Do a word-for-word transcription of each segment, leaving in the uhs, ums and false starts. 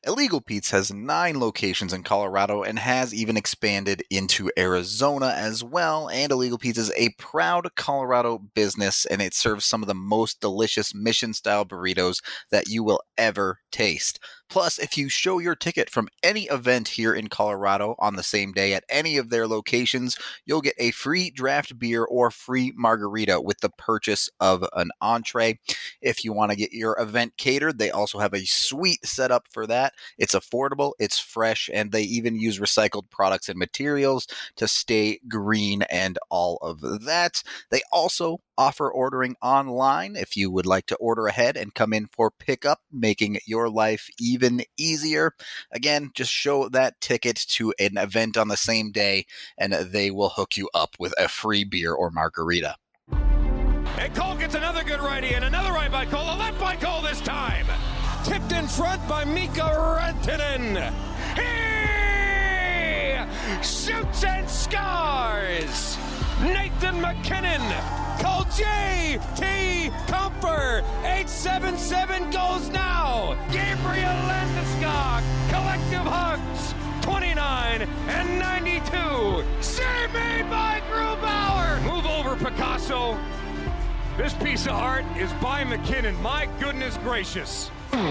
Illegal Pete's has nine locations in Colorado and has even expanded into Arizona as well. And Illegal Pete's is a proud Colorado business, and it serves some of the most delicious mission-style burritos that you will ever taste. Plus, if you show your ticket from any event here in Colorado on the same day at any of their locations, you'll get a free draft beer or free margarita with the purchase of an entree. If you want to get your event catered, they also have a sweet setup for that. It's affordable, it's fresh, and they even use recycled products and materials to stay green and all of that. They also offer ordering online if you would like to order ahead and come in for pickup, making your life even easier. Again, just show that ticket to an event on the same day and they will hook you up with a free beer or margarita. And Cole gets another good righty and another right by Cole, a left by Cole this time. Tipped in front by Mika Rantanen. He shoots and scores. Nathan MacKinnon. Call J T Comfer. eight seven seven goes now. Gabriel Landeskog. Collective hugs. twenty-nine and ninety-two. Save made by Grubauer. Move over, Picasso. This piece of art is by MacKinnon. My goodness gracious.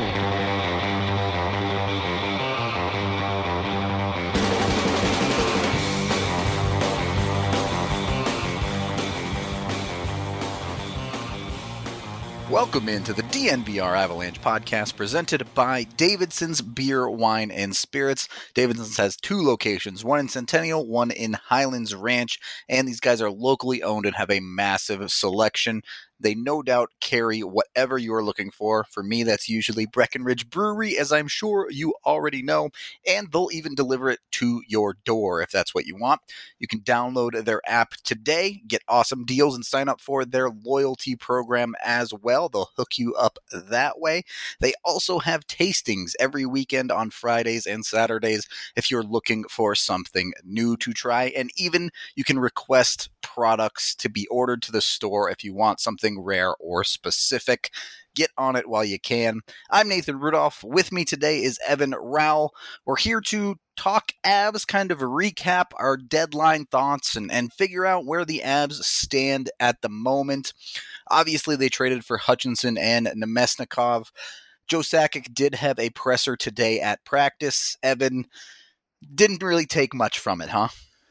Welcome into the D N V R Avalanche podcast presented by Davidson's Beer, Wine, and Spirits. Davidson's has two locations, one in Centennial, one in Highlands Ranch, and these guys are locally owned and have a massive selection. They no doubt carry whatever you're looking for. For me, that's usually Breckenridge Brewery, as I'm sure you already know, and they'll even deliver it to your door if that's what you want. You can download their app today, get awesome deals, and sign up for their loyalty program as well. They'll hook you up that way. They also have tastings every weekend on Fridays and Saturdays if you're looking for something new to try, and even you can request products to be ordered to the store if you want something rare or specific. Get on it while you can. I'm Nathan Rudolph. With me today is Evan Rowell. We're here to talk Avs, kind of recap our deadline thoughts and, and figure out where the Avs stand at the moment. Obviously, they traded for Hutchinson and Namestnikov. Joe Sakic did have a presser today at practice. Evan, didn't really take much from it, huh?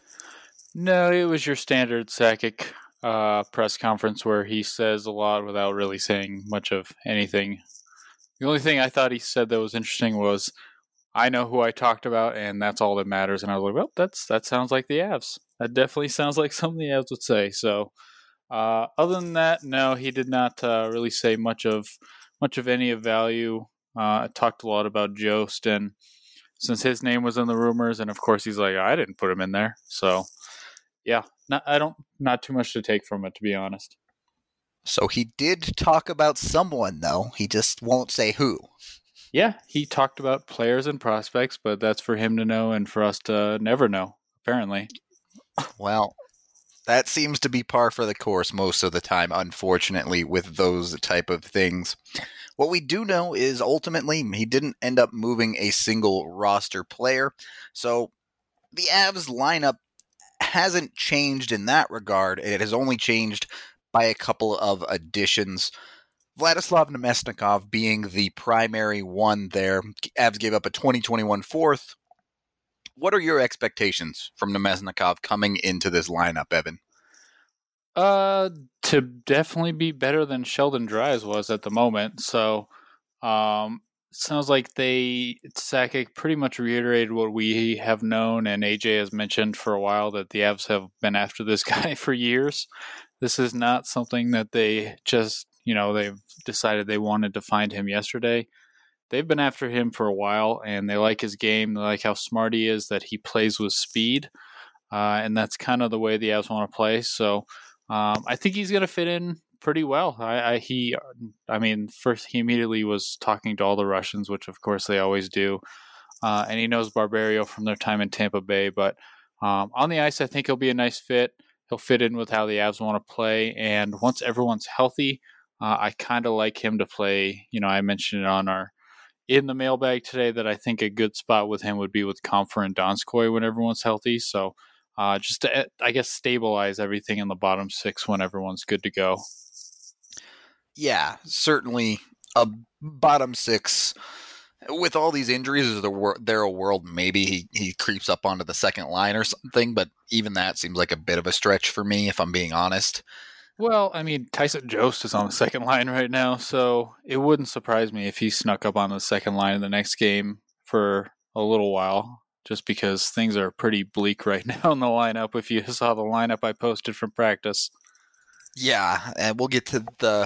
No, it was your standard Sakic uh, press conference where he says a lot without really saying much of anything. The only thing I thought he said that was interesting was, I know who I talked about, and that's all that matters. And I was like, well, that's that sounds like the Avs. That definitely sounds like something the Avs would say. So uh, other than that, no, he did not uh, really say much of much of any of value. Uh, talked a lot about Jost, and since his name was in the rumors, and of course he's like, I didn't put him in there. So yeah, not, I don't, not too much to take from it, to be honest. So he did talk about someone, though. He just won't say who. Yeah, he talked about players and prospects, but that's for him to know and for us to never know, apparently. Well, that seems to be par for the course most of the time, unfortunately, with those type of things. What we do know is ultimately he didn't end up moving a single roster player. So the Avs lineup hasn't changed in that regard. It has only changed by a couple of additions. Vladislav Namestnikov being the primary one there. Avs gave up a twenty twenty-one fourth. What are your expectations from Namestnikov coming into this lineup, Evan? Uh, to definitely be better than Sheldon Dries was at the moment. So, um, sounds like they Sakic pretty much reiterated what we have known, and A J has mentioned for a while, that the Avs have been after this guy for years. This is not something that they just, you know, they've decided they wanted to find him yesterday. They've been after him for a while, and they like his game. They like how smart he is, that he plays with speed, uh, and that's kind of the way the Avs want to play. So um, I think he's going to fit in pretty well. I, I he, I mean, first he immediately was talking to all the Russians, which of course they always do, uh, and he knows Barberio from their time in Tampa Bay. But um, on the ice, I think he'll be a nice fit. He'll fit in with how the Avs want to play, and once everyone's healthy, uh, I kind of like him to play. You know, I mentioned it on our in the mailbag today that I think a good spot with him would be with Comfer and Donskoy when everyone's healthy. So uh, just to, I guess, stabilize everything in the bottom six when everyone's good to go. Yeah, certainly a bottom six. With all these injuries, is there a world maybe he, he creeps up onto the second line or something? But even that seems like a bit of a stretch for me, if I'm being honest. Well, I mean, Tyson Jost is on the second line right now, so it wouldn't surprise me if he snuck up on the second line in the next game for a little while, just because things are pretty bleak right now in the lineup, if you saw the lineup I posted from practice. Yeah, and we'll get to the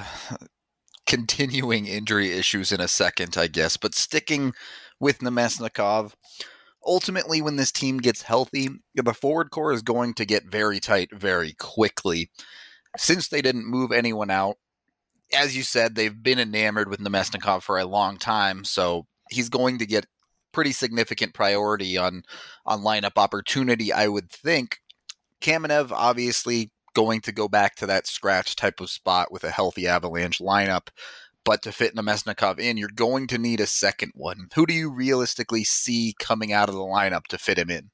continuing injury issues in a second, I guess. But sticking with Namestnikov, ultimately when this team gets healthy, the forward core is going to get very tight very quickly. Since they didn't move anyone out, as you said, they've been enamored with Namestnikov for a long time, so he's going to get pretty significant priority on, on lineup opportunity, I would think. Kamenev, obviously, going to go back to that scratch type of spot with a healthy Avalanche lineup, but to fit Namestnikov in, you're going to need a second one. Who do you realistically see coming out of the lineup to fit him in?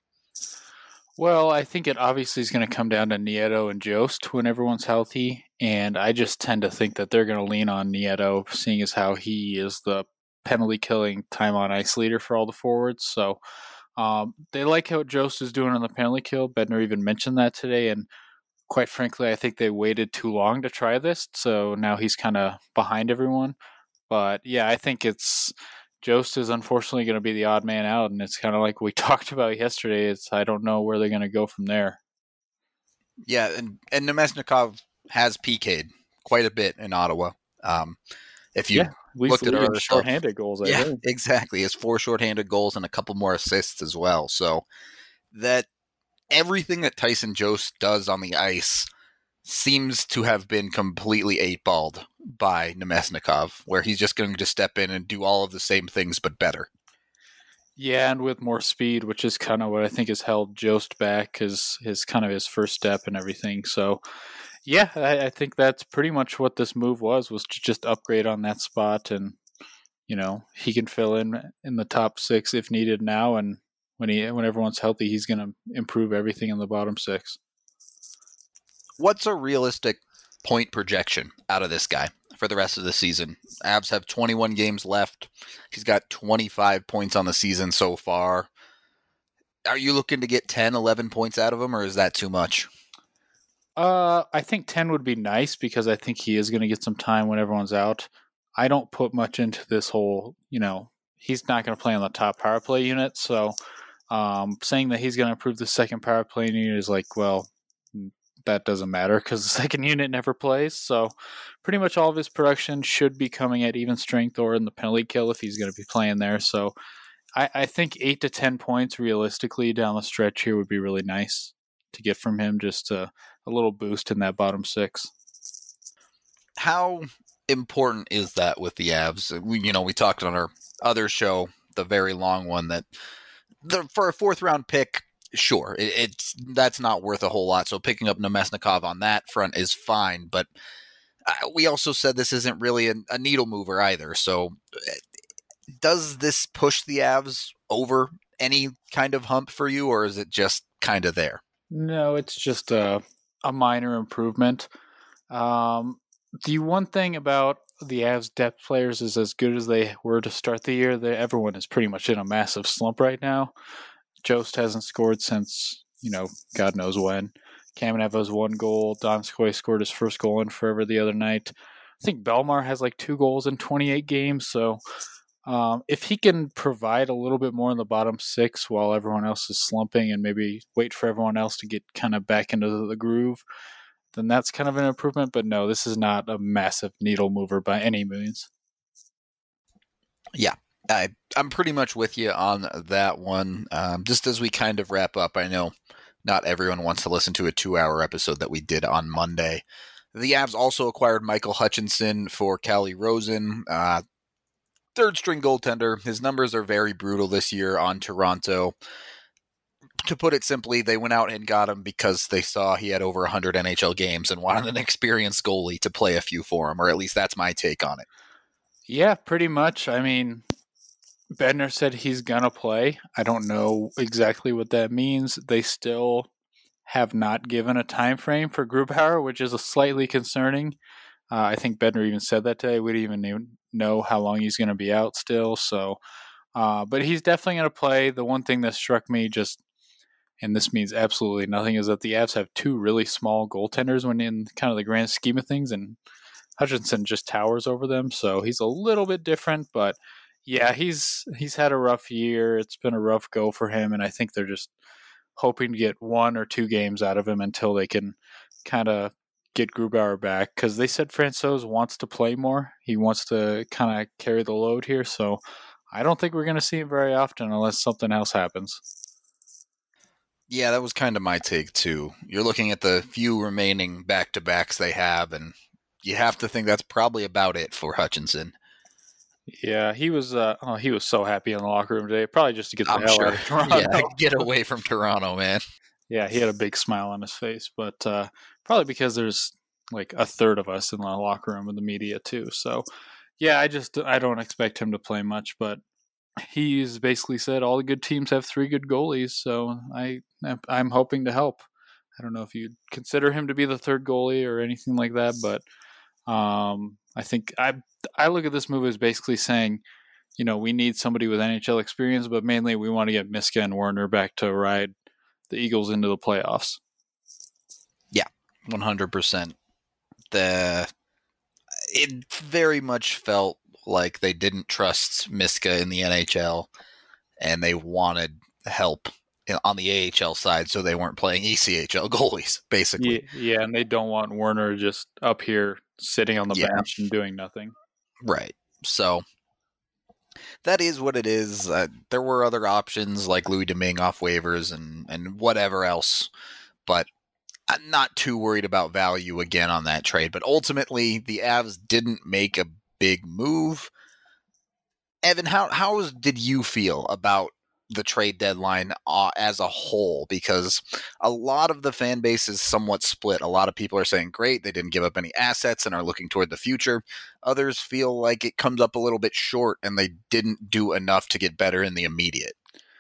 Well, I think it obviously is going to come down to Nieto and Jost when everyone's healthy, and I just tend to think that they're going to lean on Nieto, seeing as how he is the penalty-killing time-on-ice leader for all the forwards. So um, they like how Jost is doing on the penalty kill. Bednar even mentioned that today, and quite frankly, I think they waited too long to try this, so now he's kind of behind everyone. But yeah, I think it's Jost is unfortunately going to be the odd man out, and it's kind of like we talked about yesterday. It's I don't know where they're going to go from there. Yeah, and, and Namestnikov has P K'd quite a bit in Ottawa. Um, if you yeah, looked at our shorthanded goals, I yeah, think. exactly. He has four shorthanded goals and a couple more assists as well. So that everything that Tyson Jost does on the ice seems to have been completely eight-balled by Namestnikov, where he's just going to step in and do all of the same things but better. Yeah, and with more speed, which is kind of what I think has held Jost back, his, his kind of his first step and everything. So, yeah, I, I think that's pretty much what this move was, was to just upgrade on that spot, and, you know, he can fill in in the top six if needed now, and When he when everyone's healthy, he's going to improve everything in the bottom six. What's a realistic point projection out of this guy for the rest of the season? Avs have twenty-one games left. He's got twenty-five points on the season so far. Are you looking to get ten, eleven points out of him, or is that too much? Uh, I think ten would be nice because I think he is going to get some time when everyone's out. I don't put much into this whole, you know, he's not going to play on the top power play unit, so Um, saying that he's going to improve the second power play unit is like, well, that doesn't matter because the second unit never plays. So pretty much all of his production should be coming at even strength or in the penalty kill if he's going to be playing there. So I, I think eight to ten points realistically down the stretch here would be really nice to get from him, just a, a little boost in that bottom six. How important is that with the Avs? We, you know, we talked on our other show, the very long one, that The, for a fourth round pick, sure, it, it's that's not worth a whole lot. So picking up Namestnikov on that front is fine. But uh, we also said this isn't really a, a needle mover either. So does this push the Avs over any kind of hump for you, or is it just kind of there? No, it's just a, a minor improvement. Um, the one thing about the Avs depth players is as good as they were to start the year, they, everyone is pretty much in a massive slump right now. Jost hasn't scored since, you know, God knows when. Kamenev has one goal. Donskoy scored his first goal in forever the other night. I think Belmar has like two goals in twenty-eight games. So um, if he can provide a little bit more in the bottom six while everyone else is slumping and maybe wait for everyone else to get kind of back into the groove, then that's kind of an improvement. But no, this is not a massive needle mover by any means. Yeah, I, I'm pretty much with you on that one. Um, just as we kind of wrap up, I know not everyone wants to listen to a two-hour episode that we did on Monday. The Avs also acquired Michael Hutchinson for Calle Rosen, uh, third-string goaltender. His numbers are very brutal this year on Toronto. To put it simply, they went out and got him because they saw he had over one hundred N H L games and wanted an experienced goalie to play a few for him, or at least that's my take on it. Yeah, pretty much. I mean, Bednar said he's going to play. I don't know exactly what that means. They still have not given a time frame for Grubauer, which is a slightly concerning. Uh, I think Bednar even said that today. We didn't even know how long he's going to be out still. So, uh, but he's definitely going to play. The one thing that struck me just, and this means absolutely nothing, is that the Avs have two really small goaltenders when in kind of the grand scheme of things, and Hutchinson just towers over them. So he's a little bit different, but yeah, he's he's had a rough year. It's been a rough go for him, and I think they're just hoping to get one or two games out of him until they can kind of get Grubauer back, because they said Francouz wants to play more. He wants to kind of carry the load here, so I don't think we're going to see him very often unless something else happens. Yeah, that was kind of my take too. You're looking at the few remaining back-to-backs they have, and you have to think that's probably about it for Hutchinson. Yeah, he was uh, oh, he was so happy in the locker room today, probably just to get the I'm hell sure. out of Toronto. Yeah, get away from Toronto, man. Yeah, he had a big smile on his face, but uh, probably because there's like a third of us in the locker room with the media too. So, yeah, I just I don't expect him to play much, but he's basically said all the good teams have three good goalies, so I I'm hoping to help. I don't know if you'd consider him to be the third goalie or anything like that, but um, I think I I look at this move as basically saying, you know, we need somebody with N H L experience, but mainly we want to get Miska and Werner back to ride the Eagles into the playoffs. Yeah, one hundred percent. The it very much felt like they didn't trust Miska in the N H L, and they wanted help on the A H L side, so they weren't playing E C H L goalies, basically. Yeah, yeah, and they don't want Werner just up here sitting on the Yeah. bench and doing nothing. Right. So that is what it is. Uh, there were other options like Louis Domingue off waivers and, and whatever else, but I'm not too worried about value again on that trade. But ultimately, the Avs didn't make a big move. Evan, how how did you feel about the trade deadline uh, as a whole? Because a lot of the fan base is somewhat split. A lot of people are saying, great, they didn't give up any assets and are looking toward the future. Others feel like it comes up a little bit short and they didn't do enough to get better in the immediate.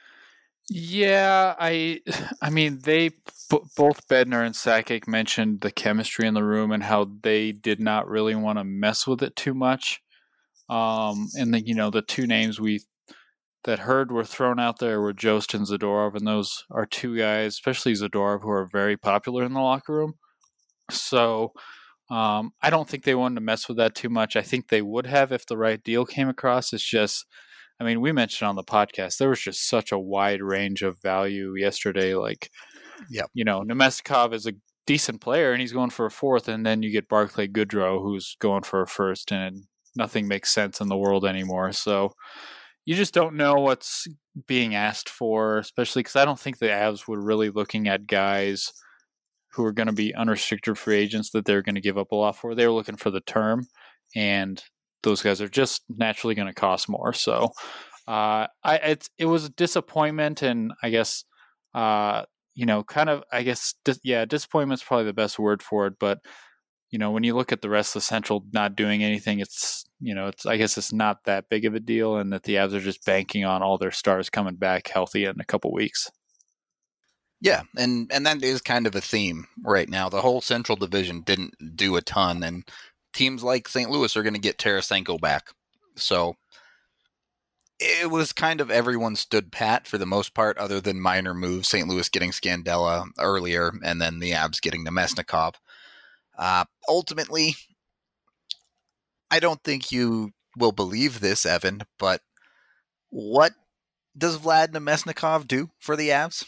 Yeah, I I mean, they b- both Bednar and Sakic mentioned the chemistry in the room and how they did not really want to mess with it too much. Um, and then, you know, the two names we that heard were thrown out there were Jost and Zadorov, and those are two guys, especially Zadorov, who are very popular in the locker room. So um, I don't think they wanted to mess with that too much. I think they would have if the right deal came across. It's just, I mean, we mentioned on the podcast, there was just such a wide range of value yesterday. Like, Yep. you know, Nemestikov is a decent player, and he's going for a fourth, and then you get Barclay Goodrow, who's going for a first, and nothing makes sense in the world anymore. So you just don't know what's being asked for, especially because I don't think the Avs were really looking at guys who are going to be unrestricted free agents that they're going to give up a lot for. They were looking for the term, and those guys are just naturally going to cost more. So uh, I it's, it was a disappointment, and I guess, uh, you know, kind of, I guess, dis- yeah, disappointment is probably the best word for it, but you know, when you look at the rest of the Central not doing anything, it's, you know, it's, I guess it's not that big of a deal, and that the Avs are just banking on all their stars coming back healthy in a couple weeks. Yeah, and, and that is kind of a theme right now. The whole Central Division didn't do a ton, and teams like Saint Louis are going to get Tarasenko back. So it was kind of everyone stood pat for the most part, other than minor moves, Saint Louis getting Scandella earlier, and then the Avs getting Nemesnikov. Uh, ultimately, I don't think you will believe this, Evan, but what does Vlad Nemesnikov do for the Avs?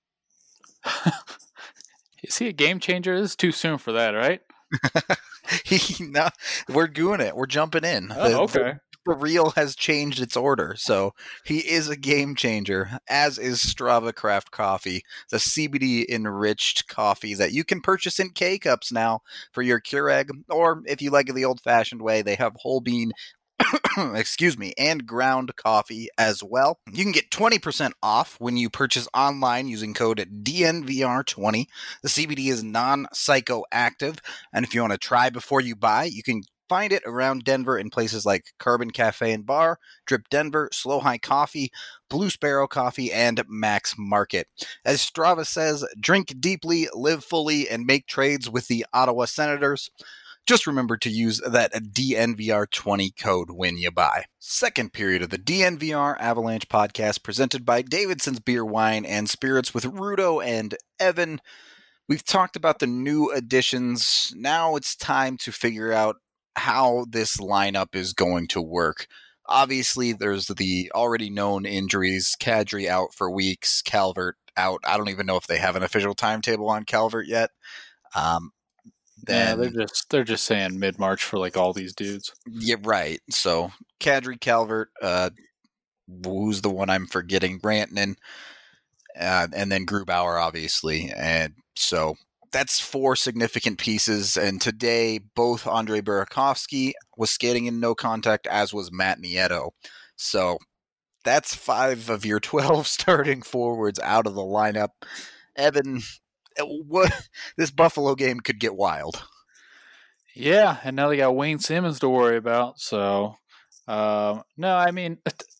Is he a game changer? This is too soon for that, right? he, no, we're doing it. We're jumping in. Oh, the, okay. The, the reel has changed its order, so he is a game changer, as is Strava Craft Coffee, the C B D enriched coffee that you can purchase in K-Cups now for your Keurig, or if you like it the old-fashioned way, they have whole bean excuse me, and ground coffee as well. You can get twenty percent off when you purchase online using code D N V R twenty. The C B D is non-psychoactive, and if you want to try before you buy, you can find it around Denver in places like Carbon Cafe and Bar, Drip Denver, Slow High Coffee, Blue Sparrow Coffee, and Max Market. As Strava says, drink deeply, live fully, and make trades with the Ottawa Senators. Just remember to use that D N V R twenty code when you buy. Second period of the D N V R Avalanche podcast presented by Davidson's Beer, Wine, and Spirits with Rudo and Evan. We've talked about the new additions. Now it's time to figure out how this lineup is going to work. Obviously, there's the already known injuries. Kadri out for weeks. Calvert out. I don't even know if they have an official timetable on Calvert yet. Um, Then, yeah, they're just they're just saying mid March for like all these dudes. Yeah, right. So Kadri, Calvert, uh, who's the one I'm forgetting? Rantanen, uh, and then Grubauer, obviously. And so that's four significant pieces. And today, both Andre Burakovsky was skating in no contact, as was Matt Nieto. So that's five of your twelve starting forwards out of the lineup. Evan, what this Buffalo game could get wild. Yeah, and now they got Wayne Simmons to worry about. So, um, no, I mean,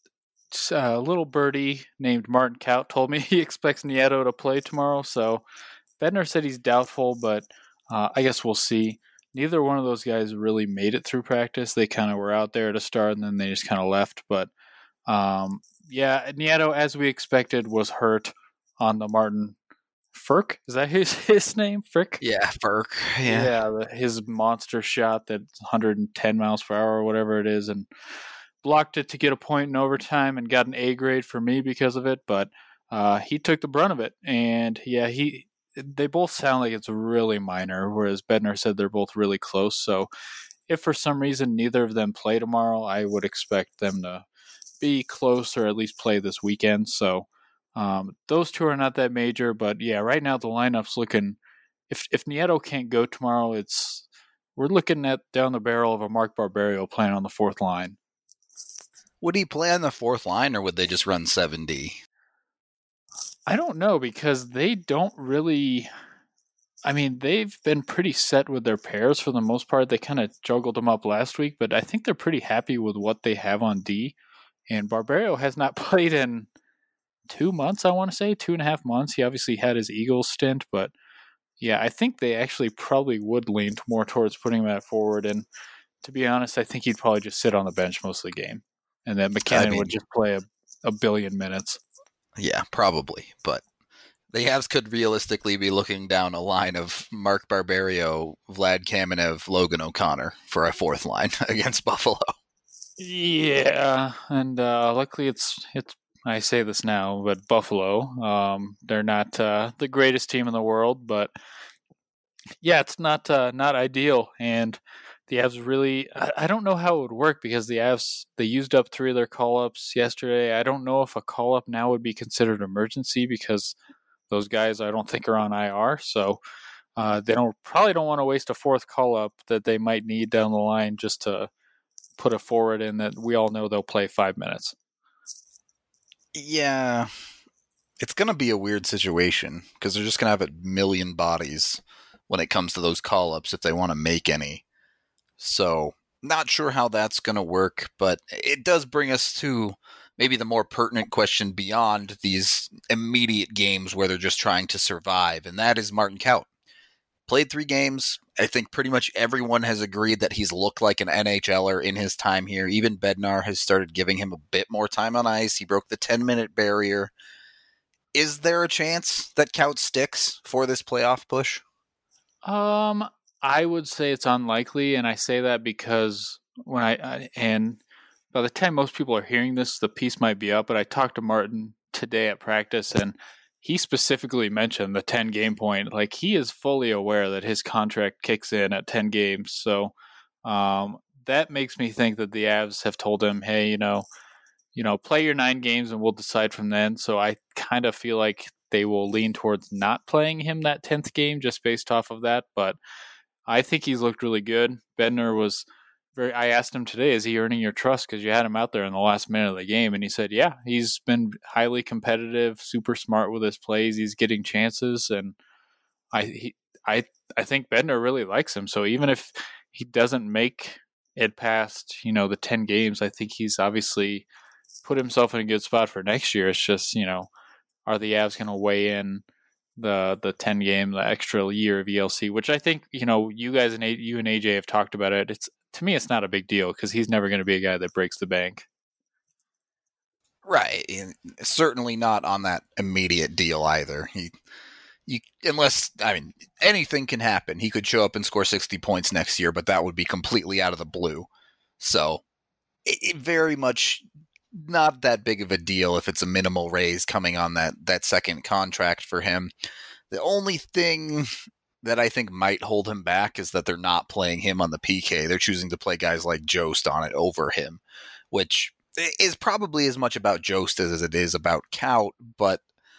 a little birdie named Martin Kaut told me he expects Nieto to play tomorrow. So, Bednar said he's doubtful, but uh, I guess we'll see. Neither one of those guys really made it through practice. They kind of were out there to start, and then they just kind of left. But, um, yeah, Nieto, as we expected, was hurt on the Martin Frk, is that his his name? Frick? Yeah, Frk. Yeah, yeah the, his monster shot that's one hundred ten miles per hour or whatever it is, and blocked it to get a point in overtime and got an A grade for me because of it. But uh, he took the brunt of it, and yeah, he they both sound like it's really minor, whereas Bednar said they're both really close. So if for some reason neither of them play tomorrow, I would expect them to be close or at least play this weekend. So. Um, those two are not that major, but yeah, right now the lineup's looking. If if Nieto can't go tomorrow, it's we're looking at down the barrel of a Mark Barberio playing on the fourth line. Would he play on the fourth line, or would they just run seven D? I don't know because they don't really. I mean, they've been pretty set with their pairs for the most part. They kind of juggled them up last week, but I think they're pretty happy with what they have on D. And Barberio has not played in two months, I want to say, two and a half months. He obviously had his Eagles stint, but yeah, I think they actually probably would lean more towards putting him at forward. And to be honest, I think he'd probably just sit on the bench most of the game, and then McKinnon I mean, would just play a, a billion minutes. Yeah, probably. But the Avs could realistically be looking down a line of Mark Barberio, Vlad Kamenev, Logan O'Connor for a fourth line against Buffalo. Yeah, and uh, luckily it's it's. I say this now, but Buffalo, um, they're not uh, the greatest team in the world, but yeah, it's not uh, not ideal. And the Avs really, I, I don't know how it would work because the Avs, they used up three of their call-ups yesterday. I don't know if a call-up now would be considered emergency because those guys I don't think are on I R. So uh, they don't probably don't want to waste a fourth call-up that they might need down the line just to put a forward in that we all know they'll play five minutes. Yeah, it's going to be a weird situation because they're just going to have a million bodies when it comes to those call-ups if they want to make any. So, not sure how that's going to work, but it does bring us to maybe the more pertinent question beyond these immediate games where they're just trying to survive, and that is Martin Kaut. Played three games. I think pretty much everyone has agreed that he's looked like an N H L er in his time here. Even Bednar has started giving him a bit more time on ice. He broke the ten-minute barrier. Is there a chance that Kaut sticks for this playoff push? Um, I would say it's unlikely, and I say that because when I, I and by the time most people are hearing this, the piece might be up. But I talked to Martin today at practice, and he specifically mentioned the ten game point. Like, he is fully aware that his contract kicks in at ten games. So um, that makes me think that the Avs have told him, hey, you know, you know, play your nine games and we'll decide from then. So I kind of feel like they will lean towards not playing him that tenth game just based off of that. But I think he's looked really good. Bednar was very, I asked him today, is he earning your trust? Because you had him out there in the last minute of the game. And he said, yeah, he's been highly competitive, super smart with his plays. He's getting chances. And I, he, I, I think Bednar really likes him. So even if he doesn't make it past, you know, the ten games, I think he's obviously put himself in a good spot for next year. It's just, you know, are the Avs going to weigh in the the ten game, the extra year of E L C, which I think, you know, you guys and a- you and A J have talked about it. It's, to me, it's not a big deal because he's never going to be a guy that breaks the bank. Right. And certainly not on that immediate deal either. He, you, unless, I mean, anything can happen. He could show up and score sixty points next year, but that would be completely out of the blue. So it, it very much not that big of a deal if it's a minimal raise coming on that, that second contract for him. The only thing that I think might hold him back is that they're not playing him on the P K. They're choosing to play guys like Jost on it over him, which is probably as much about Jost as it is about Kaut, but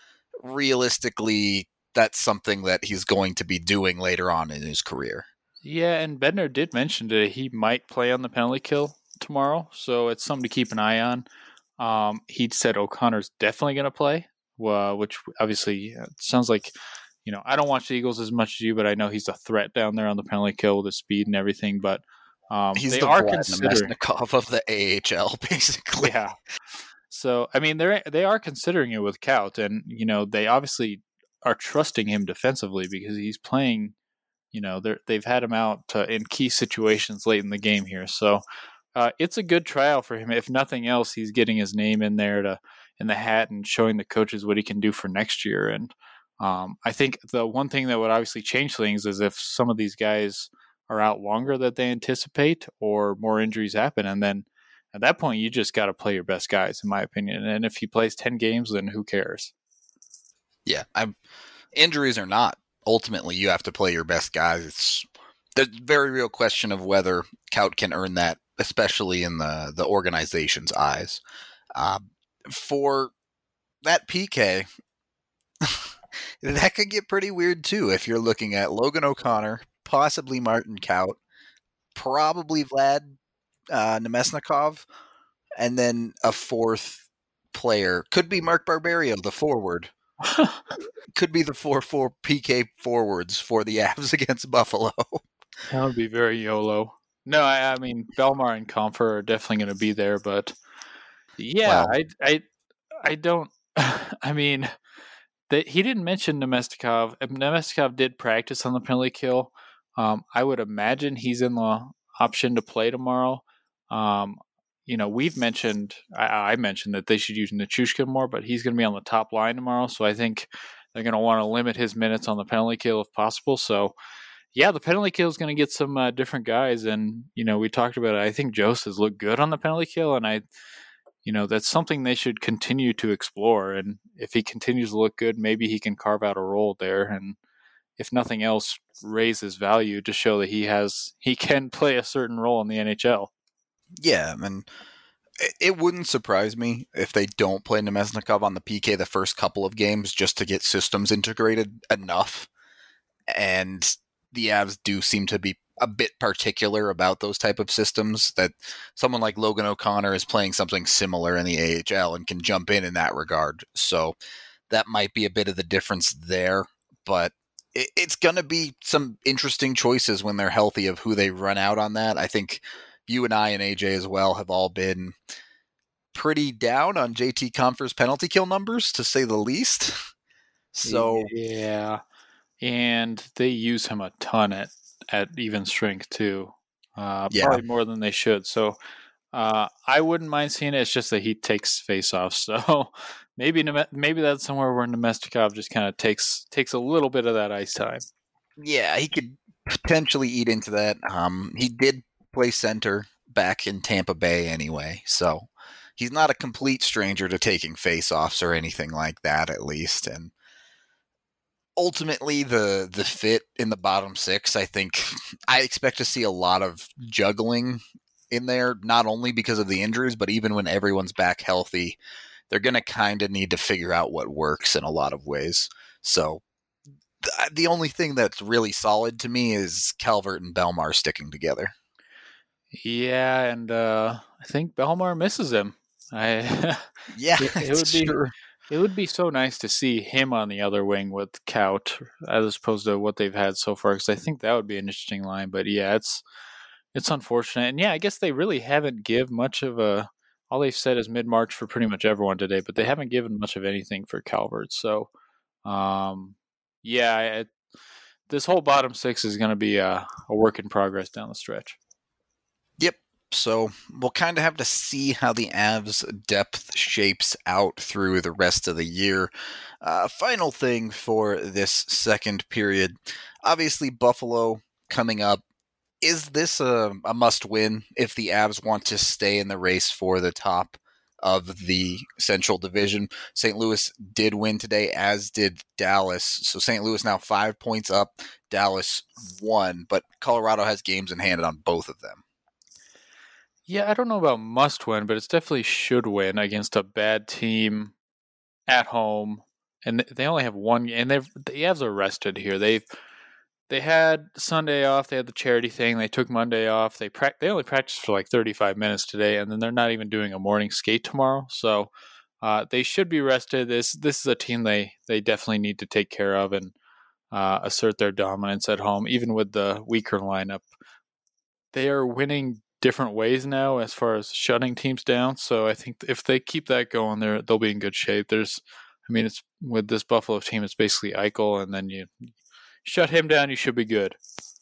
realistically, that's something that he's going to be doing later on in his career. Yeah, and Bednar did mention that he might play on the penalty kill tomorrow, so it's something to keep an eye on. Um, he said O'Connor's definitely going to play, uh, which obviously sounds like, you know, I don't watch the Eagles as much as you, but I know he's a threat down there on the penalty kill with his speed and everything. But um, he's they the are Vlad considering Namestnikov of the A H L, basically. Yeah. So I mean, they they are considering it with Kaut, and you know, they obviously are trusting him defensively because he's playing. You know, they they've had him out uh, in key situations late in the game here, so uh, it's a good trial for him. If nothing else, he's getting his name in there to in the hat and showing the coaches what he can do for next year. And um, I think the one thing that would obviously change things is if some of these guys are out longer than they anticipate, or more injuries happen, and then at that point you just got to play your best guys, in my opinion. And if he plays ten games, then who cares? Yeah, I'm. Injuries or not, ultimately you have to play your best guys. It's the very real question of whether Kaut can earn that, especially in the, the organization's eyes. Uh, for that P K, that could get pretty weird too if you're looking at Logan O'Connor, possibly Martin Kaut, probably Vlad uh, Namestnikov, and then a fourth player. Could be Mark Barberio, the forward. Could be the four four P K forwards for the Avs against Buffalo. That would be very YOLO. No, I, I mean, Belmar and Comfer are definitely going to be there, but yeah, Wow. I, I, I don't. I mean, that he didn't mention Namestnikov. Namestnikov did practice on the penalty kill. Um, I would imagine he's in the option to play tomorrow. Um, you know, we've mentioned, I, I mentioned that they should use Nichushkin more, but he's going to be on the top line tomorrow. So I think they're going to want to limit his minutes on the penalty kill if possible. So yeah, the penalty kill is going to get some uh, different guys. And, you know, we talked about it. I think Jost has looked good on the penalty kill. And I, you know, that's something they should continue to explore. And if he continues to look good, maybe he can carve out a role there. And if nothing else, raise his value to show that he has, he can play a certain role in the N H L. Yeah, and it wouldn't surprise me if they don't play Namestnikov on the P K the first couple of games just to get systems integrated enough. And the Avs do seem to be a bit particular about those type of systems, that someone like Logan O'Connor is playing something similar in the A H L and can jump in in that regard. So that might be a bit of the difference there, but it, it's going to be some interesting choices when they're healthy of who they run out on that. I think you and I and A J as well have all been pretty down on J T Compher's penalty kill numbers, to say the least. So yeah, and they use him a ton at, at even strength too, uh, Yeah. probably more than they should. So uh, I wouldn't mind seeing it. It's just that he takes face-offs, so maybe maybe that's somewhere where Namestnikov just kind of takes takes a little bit of that ice time. yeah, he could potentially eat into that. Um, he did play center back in Tampa Bay anyway, so he's not a complete stranger to taking face-offs or anything like that, at least. And ultimately, the the fit in the bottom six, I think I expect to see a lot of juggling in there, not only because of the injuries, but even when everyone's back healthy, they're going to kind of need to figure out what works in a lot of ways. So th- the only thing that's really solid to me is Calvert and Belmar sticking together. Yeah, and uh, I think Belmar misses him. I Yeah, it, it it's would be true. it would be so nice to see him on the other wing with Kaut as opposed to what they've had so far, because I think that would be an interesting line. But yeah, it's it's unfortunate. And yeah, I guess they really haven't give much of a. All they've said is mid March for pretty much everyone today, but they haven't given much of anything for Calvert. So, um, yeah, I, this whole bottom six is going to be a, a work in progress down the stretch. Yep. So we'll kind of have to see how the Avs depth shapes out through the rest of the year. Uh, final thing for this second period, obviously Buffalo coming up. Is this a, a must-win if the Avs want to stay in the race for the top of the Central Division? Saint Louis did win today, as did Dallas. So Saint Louis now five points up, Dallas one, but Colorado has games in hand on both of them. Yeah, I don't know about must-win, but it's definitely should win against a bad team at home. And they only have one, and they've the Avs are rested here. They've They had Sunday off. They had the charity thing. They took Monday off. They pra- they only practiced for like thirty-five minutes today, and then they're not even doing a morning skate tomorrow. So uh, they should be rested. This this is a team they, they definitely need to take care of and uh, assert their dominance at home, even with the weaker lineup. They are winning different ways now as far as shutting teams down. So I think if they keep that going, they're, they'll be in good shape. There's, I mean, it's with this Buffalo team, it's basically Eichel, and then you shut him down, you should be good.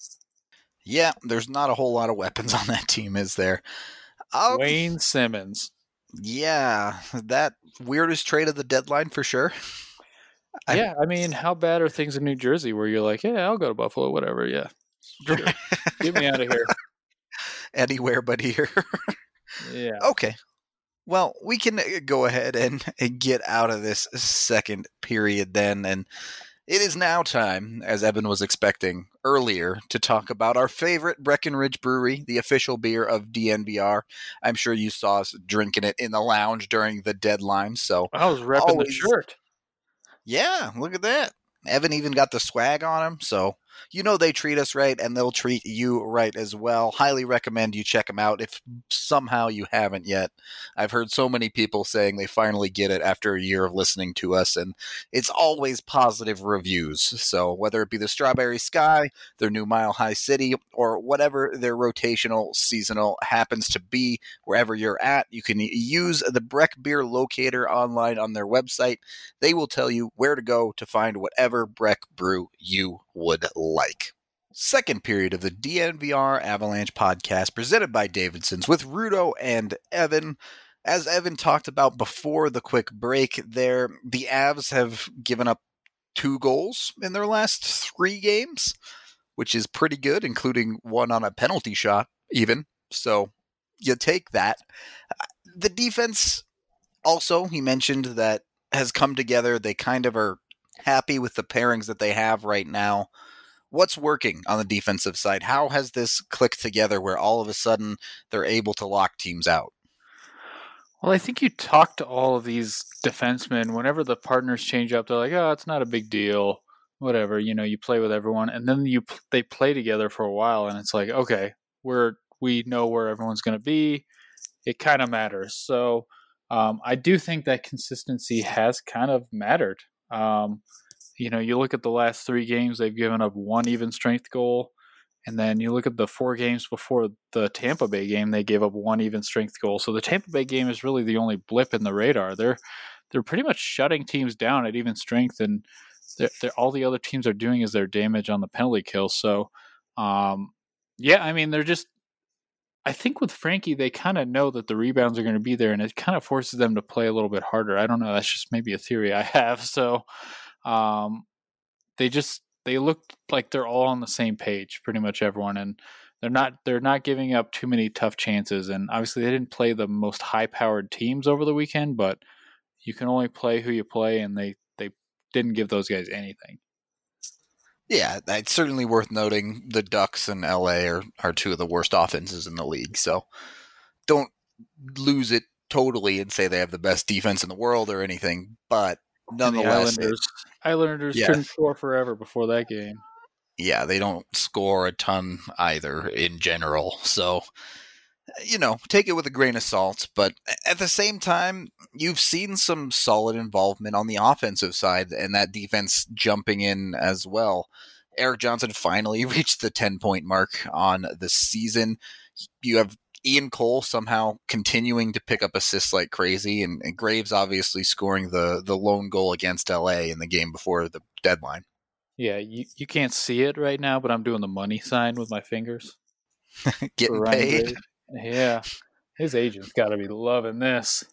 Yeah, there's not a whole lot of weapons on that team, is there? Um, Wayne Simmons. Yeah, that weirdest trade of the deadline for sure. Yeah, I, I mean, how bad are things in New Jersey where you're like, yeah, I'll go to Buffalo, whatever, yeah. Sure. Get me out of here. Anywhere but here. Yeah. Okay. Well, we can go ahead and get out of this second period then, and it is now time, as Evan was expecting earlier, to talk about our favorite Breckenridge Brewery, the official beer of D N V R. I'm sure you saw us drinking it in the lounge during the deadline. So I was repping always, the shirt. Yeah, look at that. Evan even got the swag on him, so you know they treat us right, and they'll treat you right as well. Highly recommend you check them out if somehow you haven't yet. I've heard so many people saying they finally get it after a year of listening to us, and it's always positive reviews. So whether it be the Strawberry Sky, their new Mile High City, or whatever their rotational seasonal happens to be, wherever you're at, you can use the Breck Beer Locator online on their website. They will tell you where to go to find whatever Breck brew you would like. Second period of the D N V R Avalanche podcast presented by Davidson's with Rudo and Evan. As Evan talked about before the quick break there, the Avs have given up two goals in their last three games, which is pretty good, including one on a penalty shot even. So you take that. The defense also, he mentioned that has come together. They kind of are happy with the pairings that they have right now. What's working on the defensive side? How has this clicked together where all of a sudden they're able to lock teams out? Well, I think you talk to all of these defensemen whenever the partners change up. They're like, oh, it's not a big deal. Whatever, you know, you play with everyone. And then you they play together for a while and it's like, okay, we're, we know where everyone's going to be. It kind of matters. So um, I do think that consistency has kind of mattered. Um, you know, you look at the last three games, they've given up one even strength goal. And then you look at the four games before the Tampa Bay game, they gave up one even strength goal. So the Tampa Bay game is really the only blip in the radar. They're they're pretty much shutting teams down at even strength, and they're, they're, all the other teams are doing is their damage on the penalty kill. So, um, yeah, I mean, they're just – I think with Frankie, they kind of know that the rebounds are going to be there, and it kind of forces them to play a little bit harder. I don't know. That's just maybe a theory I have. So um, they just – they look like they're all on the same page, pretty much everyone, and they're not they're not giving up too many tough chances. And obviously, they didn't play the most high-powered teams over the weekend, but you can only play who you play, and they, they didn't give those guys anything. Yeah, it's certainly worth noting the Ducks and L A are, are two of the worst offenses in the league, so don't lose it totally and say they have the best defense in the world or anything, but nonetheless, the Islanders, it, Islanders yeah. couldn't score forever before that game. Yeah, they don't score a ton either in general. So, you know, take it with a grain of salt. But at the same time, you've seen some solid involvement on the offensive side and that defense jumping in as well. Erik Johnson finally reached the ten-point mark on the season. You have Ian Cole somehow continuing to pick up assists like crazy, and, and Graves obviously scoring the, the lone goal against L A in the game before the deadline. Yeah, you, you can't see it right now, but I'm doing the money sign with my fingers. Getting paid. Graves. Yeah. His agent's got to be loving this.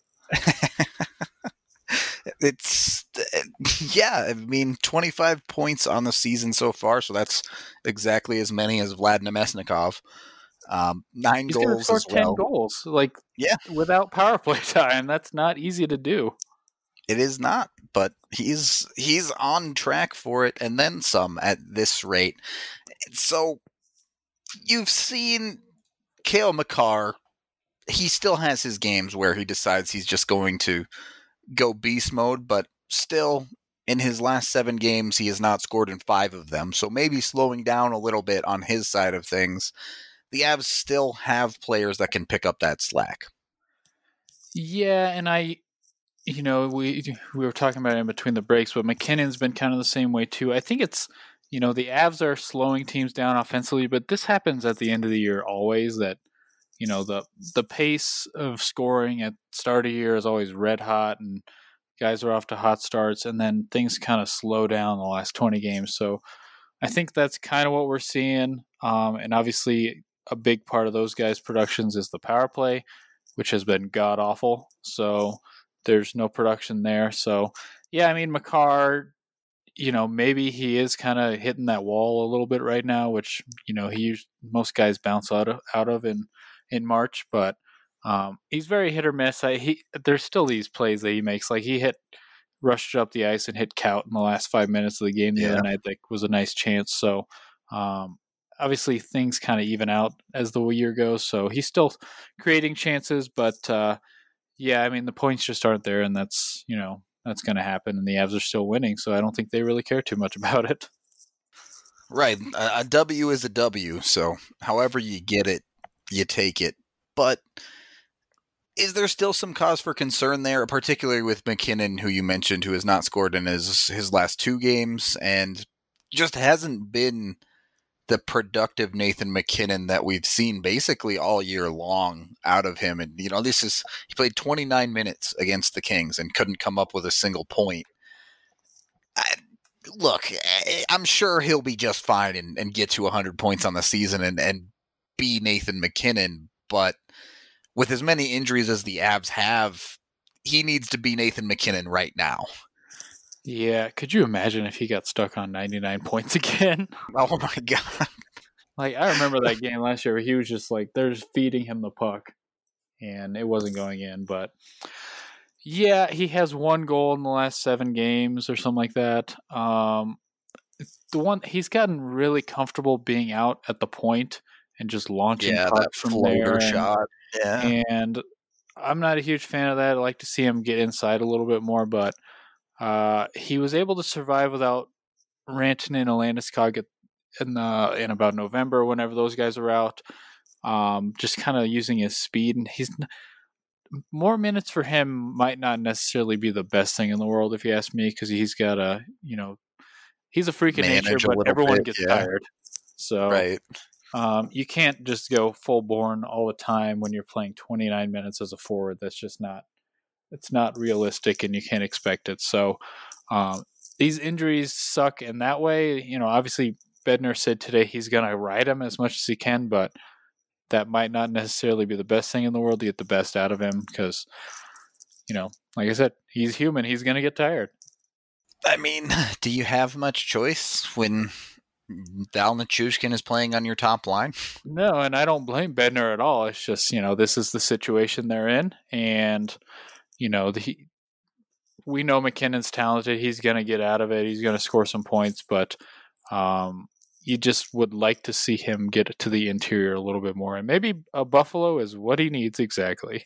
It's, yeah, I mean, twenty-five points on the season so far, so that's exactly as many as Vlad Nemesnikov. Um, nine He's goals score as ten well. goals, like, yeah, without power play time. That's not easy to do. It is not, but he's he's on track for it, and then some at this rate. So you've seen Cale Makar. He still has his games where he decides he's just going to go beast mode, but still, in his last seven games, he has not scored in five of them. So maybe slowing down a little bit on his side of things. The Avs still have players that can pick up that slack. Yeah, and I, you know, we we were talking about it in between the breaks, but McKinnon's been kind of the same way too. I think it's, you know, the Avs are slowing teams down offensively, but this happens at the end of the year always, that, you know, the the pace of scoring at start of year is always red hot, and guys are off to hot starts, and then things kind of slow down the last twenty games. So I think that's kind of what we're seeing. Um, and obviously a big part of those guys' productions is the power play, which has been god awful. So there's no production there. So yeah, I mean, Makar, you know, maybe he is kind of hitting that wall a little bit right now, which, you know, he most guys bounce out of out of in in March, but um, he's very hit or miss. I, he there's still these plays that he makes, like he hit rushed up the ice and hit Kaut in the last five minutes of the game the yeah. other night. That was a nice chance. So um, obviously things kind of even out as the year goes. So he's still creating chances, but uh, yeah, I mean, the points just aren't there, and that's, you know, that's going to happen, and the Avs are still winning, so I don't think they really care too much about it. Right. A, a W is a W, so however you get it, you take it. But is there still some cause for concern there, particularly with McKinnon, who you mentioned, who has not scored in his, his last two games and just hasn't been the productive Nathan McKinnon that we've seen basically all year long out of him? And, you know, this is, he played twenty-nine minutes against the Kings and couldn't come up with a single point. I, look, I'm sure he'll be just fine and, and get to one hundred points on the season and, and be Nathan McKinnon, but with as many injuries as the Avs have, he needs to be Nathan McKinnon right now. Yeah, could you imagine if he got stuck on ninety-nine points again? Oh my god. Like, I remember that game last year where he was just like, they're just feeding him the puck, and it wasn't going in, but yeah, he has one goal in the last seven games or something like that. Um, the one he's gotten really comfortable being out at the point and just launching yeah, pucks that from floater there. shot. And, yeah. And I'm not a huge fan of that. I like to see him get inside a little bit more, but uh, he was able to survive without Rantanen and Landeskog in the in about November, whenever those guys are out. Um, just kind of using his speed, and he's more minutes for him might not necessarily be the best thing in the world, if you ask me, because he's got a, you know, he's a freak of nature, but everyone bit, gets yeah. tired. So right. um, you can't just go full born all the time when you're playing twenty-nine minutes as a forward. That's just not, it's not realistic, and you can't expect it. So um, these injuries suck in that way. You know, obviously Bednar said today he's going to ride him as much as he can, but that might not necessarily be the best thing in the world to get the best out of him because, you know, like I said, he's human. He's going to get tired. I mean, do you have much choice when Val Nichushkin is playing on your top line? No, and I don't blame Bednar at all. It's just, you know, this is the situation they're in, and, you know, the, we know McKinnon's talented. He's going to get out of it. He's going to score some points, but um, you just would like to see him get to the interior a little bit more. And maybe a Buffalo is what he needs exactly.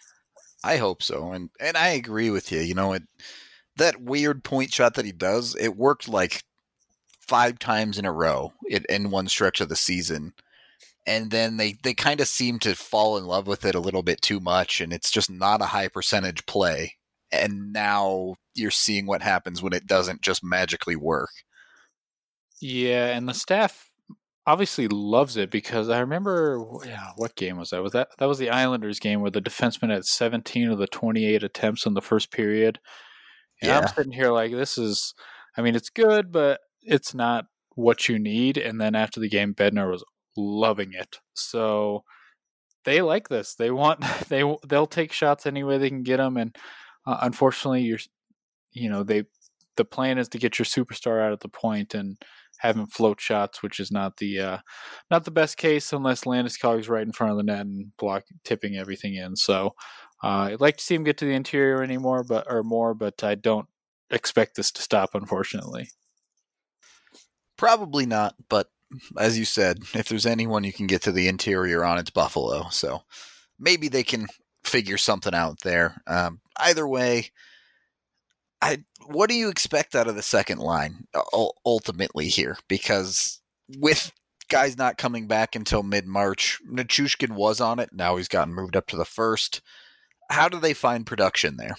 I hope so. And and I agree with you. You know, it that weird point shot that he does, it worked like five times in a row in, in one stretch of the season. And then they, they kind of seem to fall in love with it a little bit too much, and it's just not a high percentage play. And now you're seeing what happens when it doesn't just magically work. Yeah, and the staff obviously loves it because I remember, yeah, what game was that? Was that that was the Islanders game where the defenseman had seventeen of the twenty-eight attempts in the first period, and I'm Yeah. sitting here like, this is, I mean, it's good, but it's not what you need. And then after the game, Bednar was loving it, so they like this. They want they they'll take shots any way they can get them, and uh, unfortunately, you're you know they the plan is to get your superstar out at the point and have him float shots, which is not the uh, not the best case unless Landeskog's right in front of the net and block tipping everything in. So uh, I'd like to see him get to the interior anymore, but or more, but I don't expect this to stop, unfortunately. Probably not, but as you said, if there's anyone you can get to the interior on, it's Buffalo. So maybe they can figure something out there. Um, either way, I what do you expect out of the second line uh, ultimately here? Because with guys not coming back until mid-March, Nichushkin was on it. Now he's gotten moved up to the first. How do they find production there?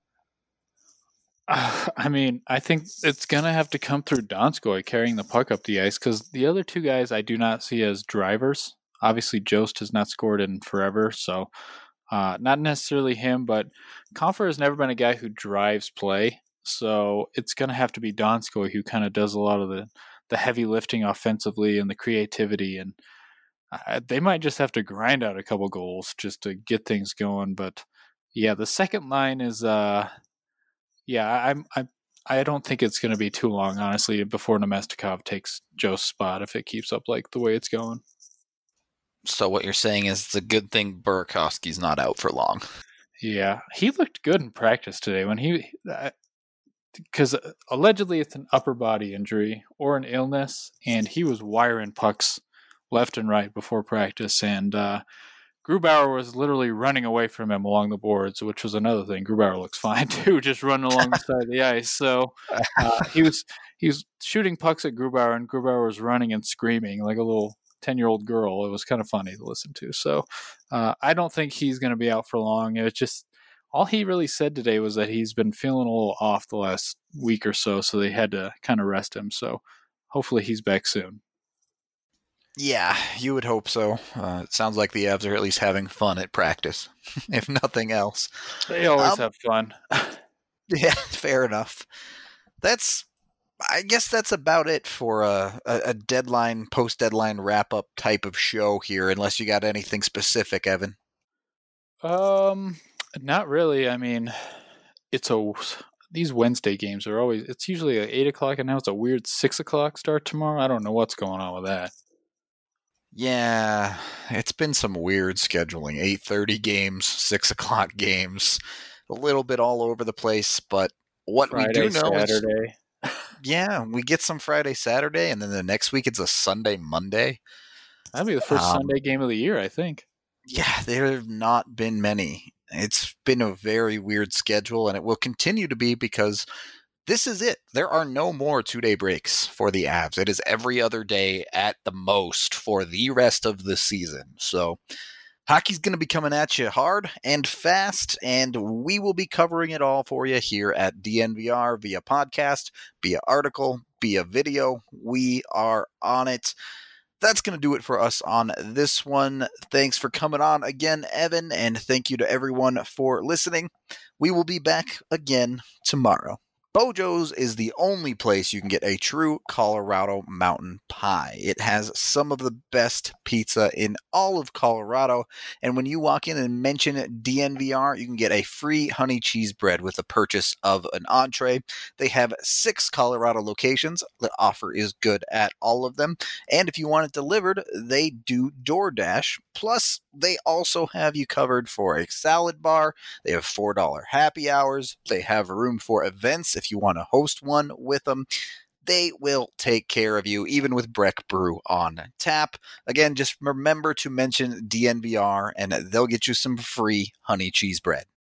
Uh, I mean, I think it's going to have to come through Donskoy carrying the puck up the ice because the other two guys I do not see as drivers. Obviously, Jost has not scored in forever, so uh, not necessarily him, but Compher has never been a guy who drives play, so it's going to have to be Donskoy who kind of does a lot of the, the heavy lifting offensively and the creativity, and uh, they might just have to grind out a couple goals just to get things going, but yeah, the second line is... Uh, Yeah, I'm. I. I don't think it's going to be too long, honestly, before Nemestikov takes Joe's spot if it keeps up like the way it's going. So what you're saying is it's a good thing Burakovsky's not out for long. Yeah, he looked good in practice today when he, because uh, allegedly it's an upper body injury or an illness, and he was wiring pucks left and right before practice, and uh, Grubauer was literally running away from him along the boards, which was another thing. Grubauer looks fine too, just running along the side of the ice. So uh, he was he was shooting pucks at Grubauer, and Grubauer was running and screaming like a little ten-year-old girl. It was kind of funny to listen to. So uh, I don't think he's going to be out for long. It was just all he really said today was that he's been feeling a little off the last week or so, so they had to kind of rest him. So hopefully he's back soon. Yeah, you would hope so. Uh, it sounds like the Avs are at least having fun at practice, if nothing else. They always um, have fun. Yeah, fair enough. That's, I guess that's about it for a, a deadline, post-deadline wrap-up type of show here, unless you got anything specific, Evan. Um, not really. I mean, it's a these Wednesday games are always. It's usually at eight o'clock, and now it's a weird six o'clock start tomorrow. I don't know what's going on with that. Yeah, it's been some weird scheduling. eight thirty games, six o'clock games, a little bit all over the place, but what Friday, we do know Saturday. is, yeah, we get some Friday, Saturday, and then the next week it's a Sunday, Monday. That'll be the first um, Sunday game of the year, I think. Yeah, there have not been many. It's been a very weird schedule, and it will continue to be because this is it. There are no more two-day breaks for the Avs. It is every other day at the most for the rest of the season. So hockey's going to be coming at you hard and fast, and we will be covering it all for you here at D N V R via podcast, via article, via video. We are on it. That's going to do it for us on this one. Thanks for coming on again, Evan, and thank you to everyone for listening. We will be back again tomorrow. Bojo's is the only place you can get a true Colorado mountain pie. It has some of the best pizza in all of Colorado, and when you walk in and mention D N V R, you can get a free honey cheese bread with the purchase of an entree. They have six Colorado locations. The offer is good at all of them, and if you want it delivered, they do DoorDash. Plus, they also have you covered for a salad bar. They have four dollars happy hours. They have room for events if you want to host one with them. They will take care of you, even with Breck Brew on tap. Again, just remember to mention D N V R, and they'll get you some free honey cheese bread.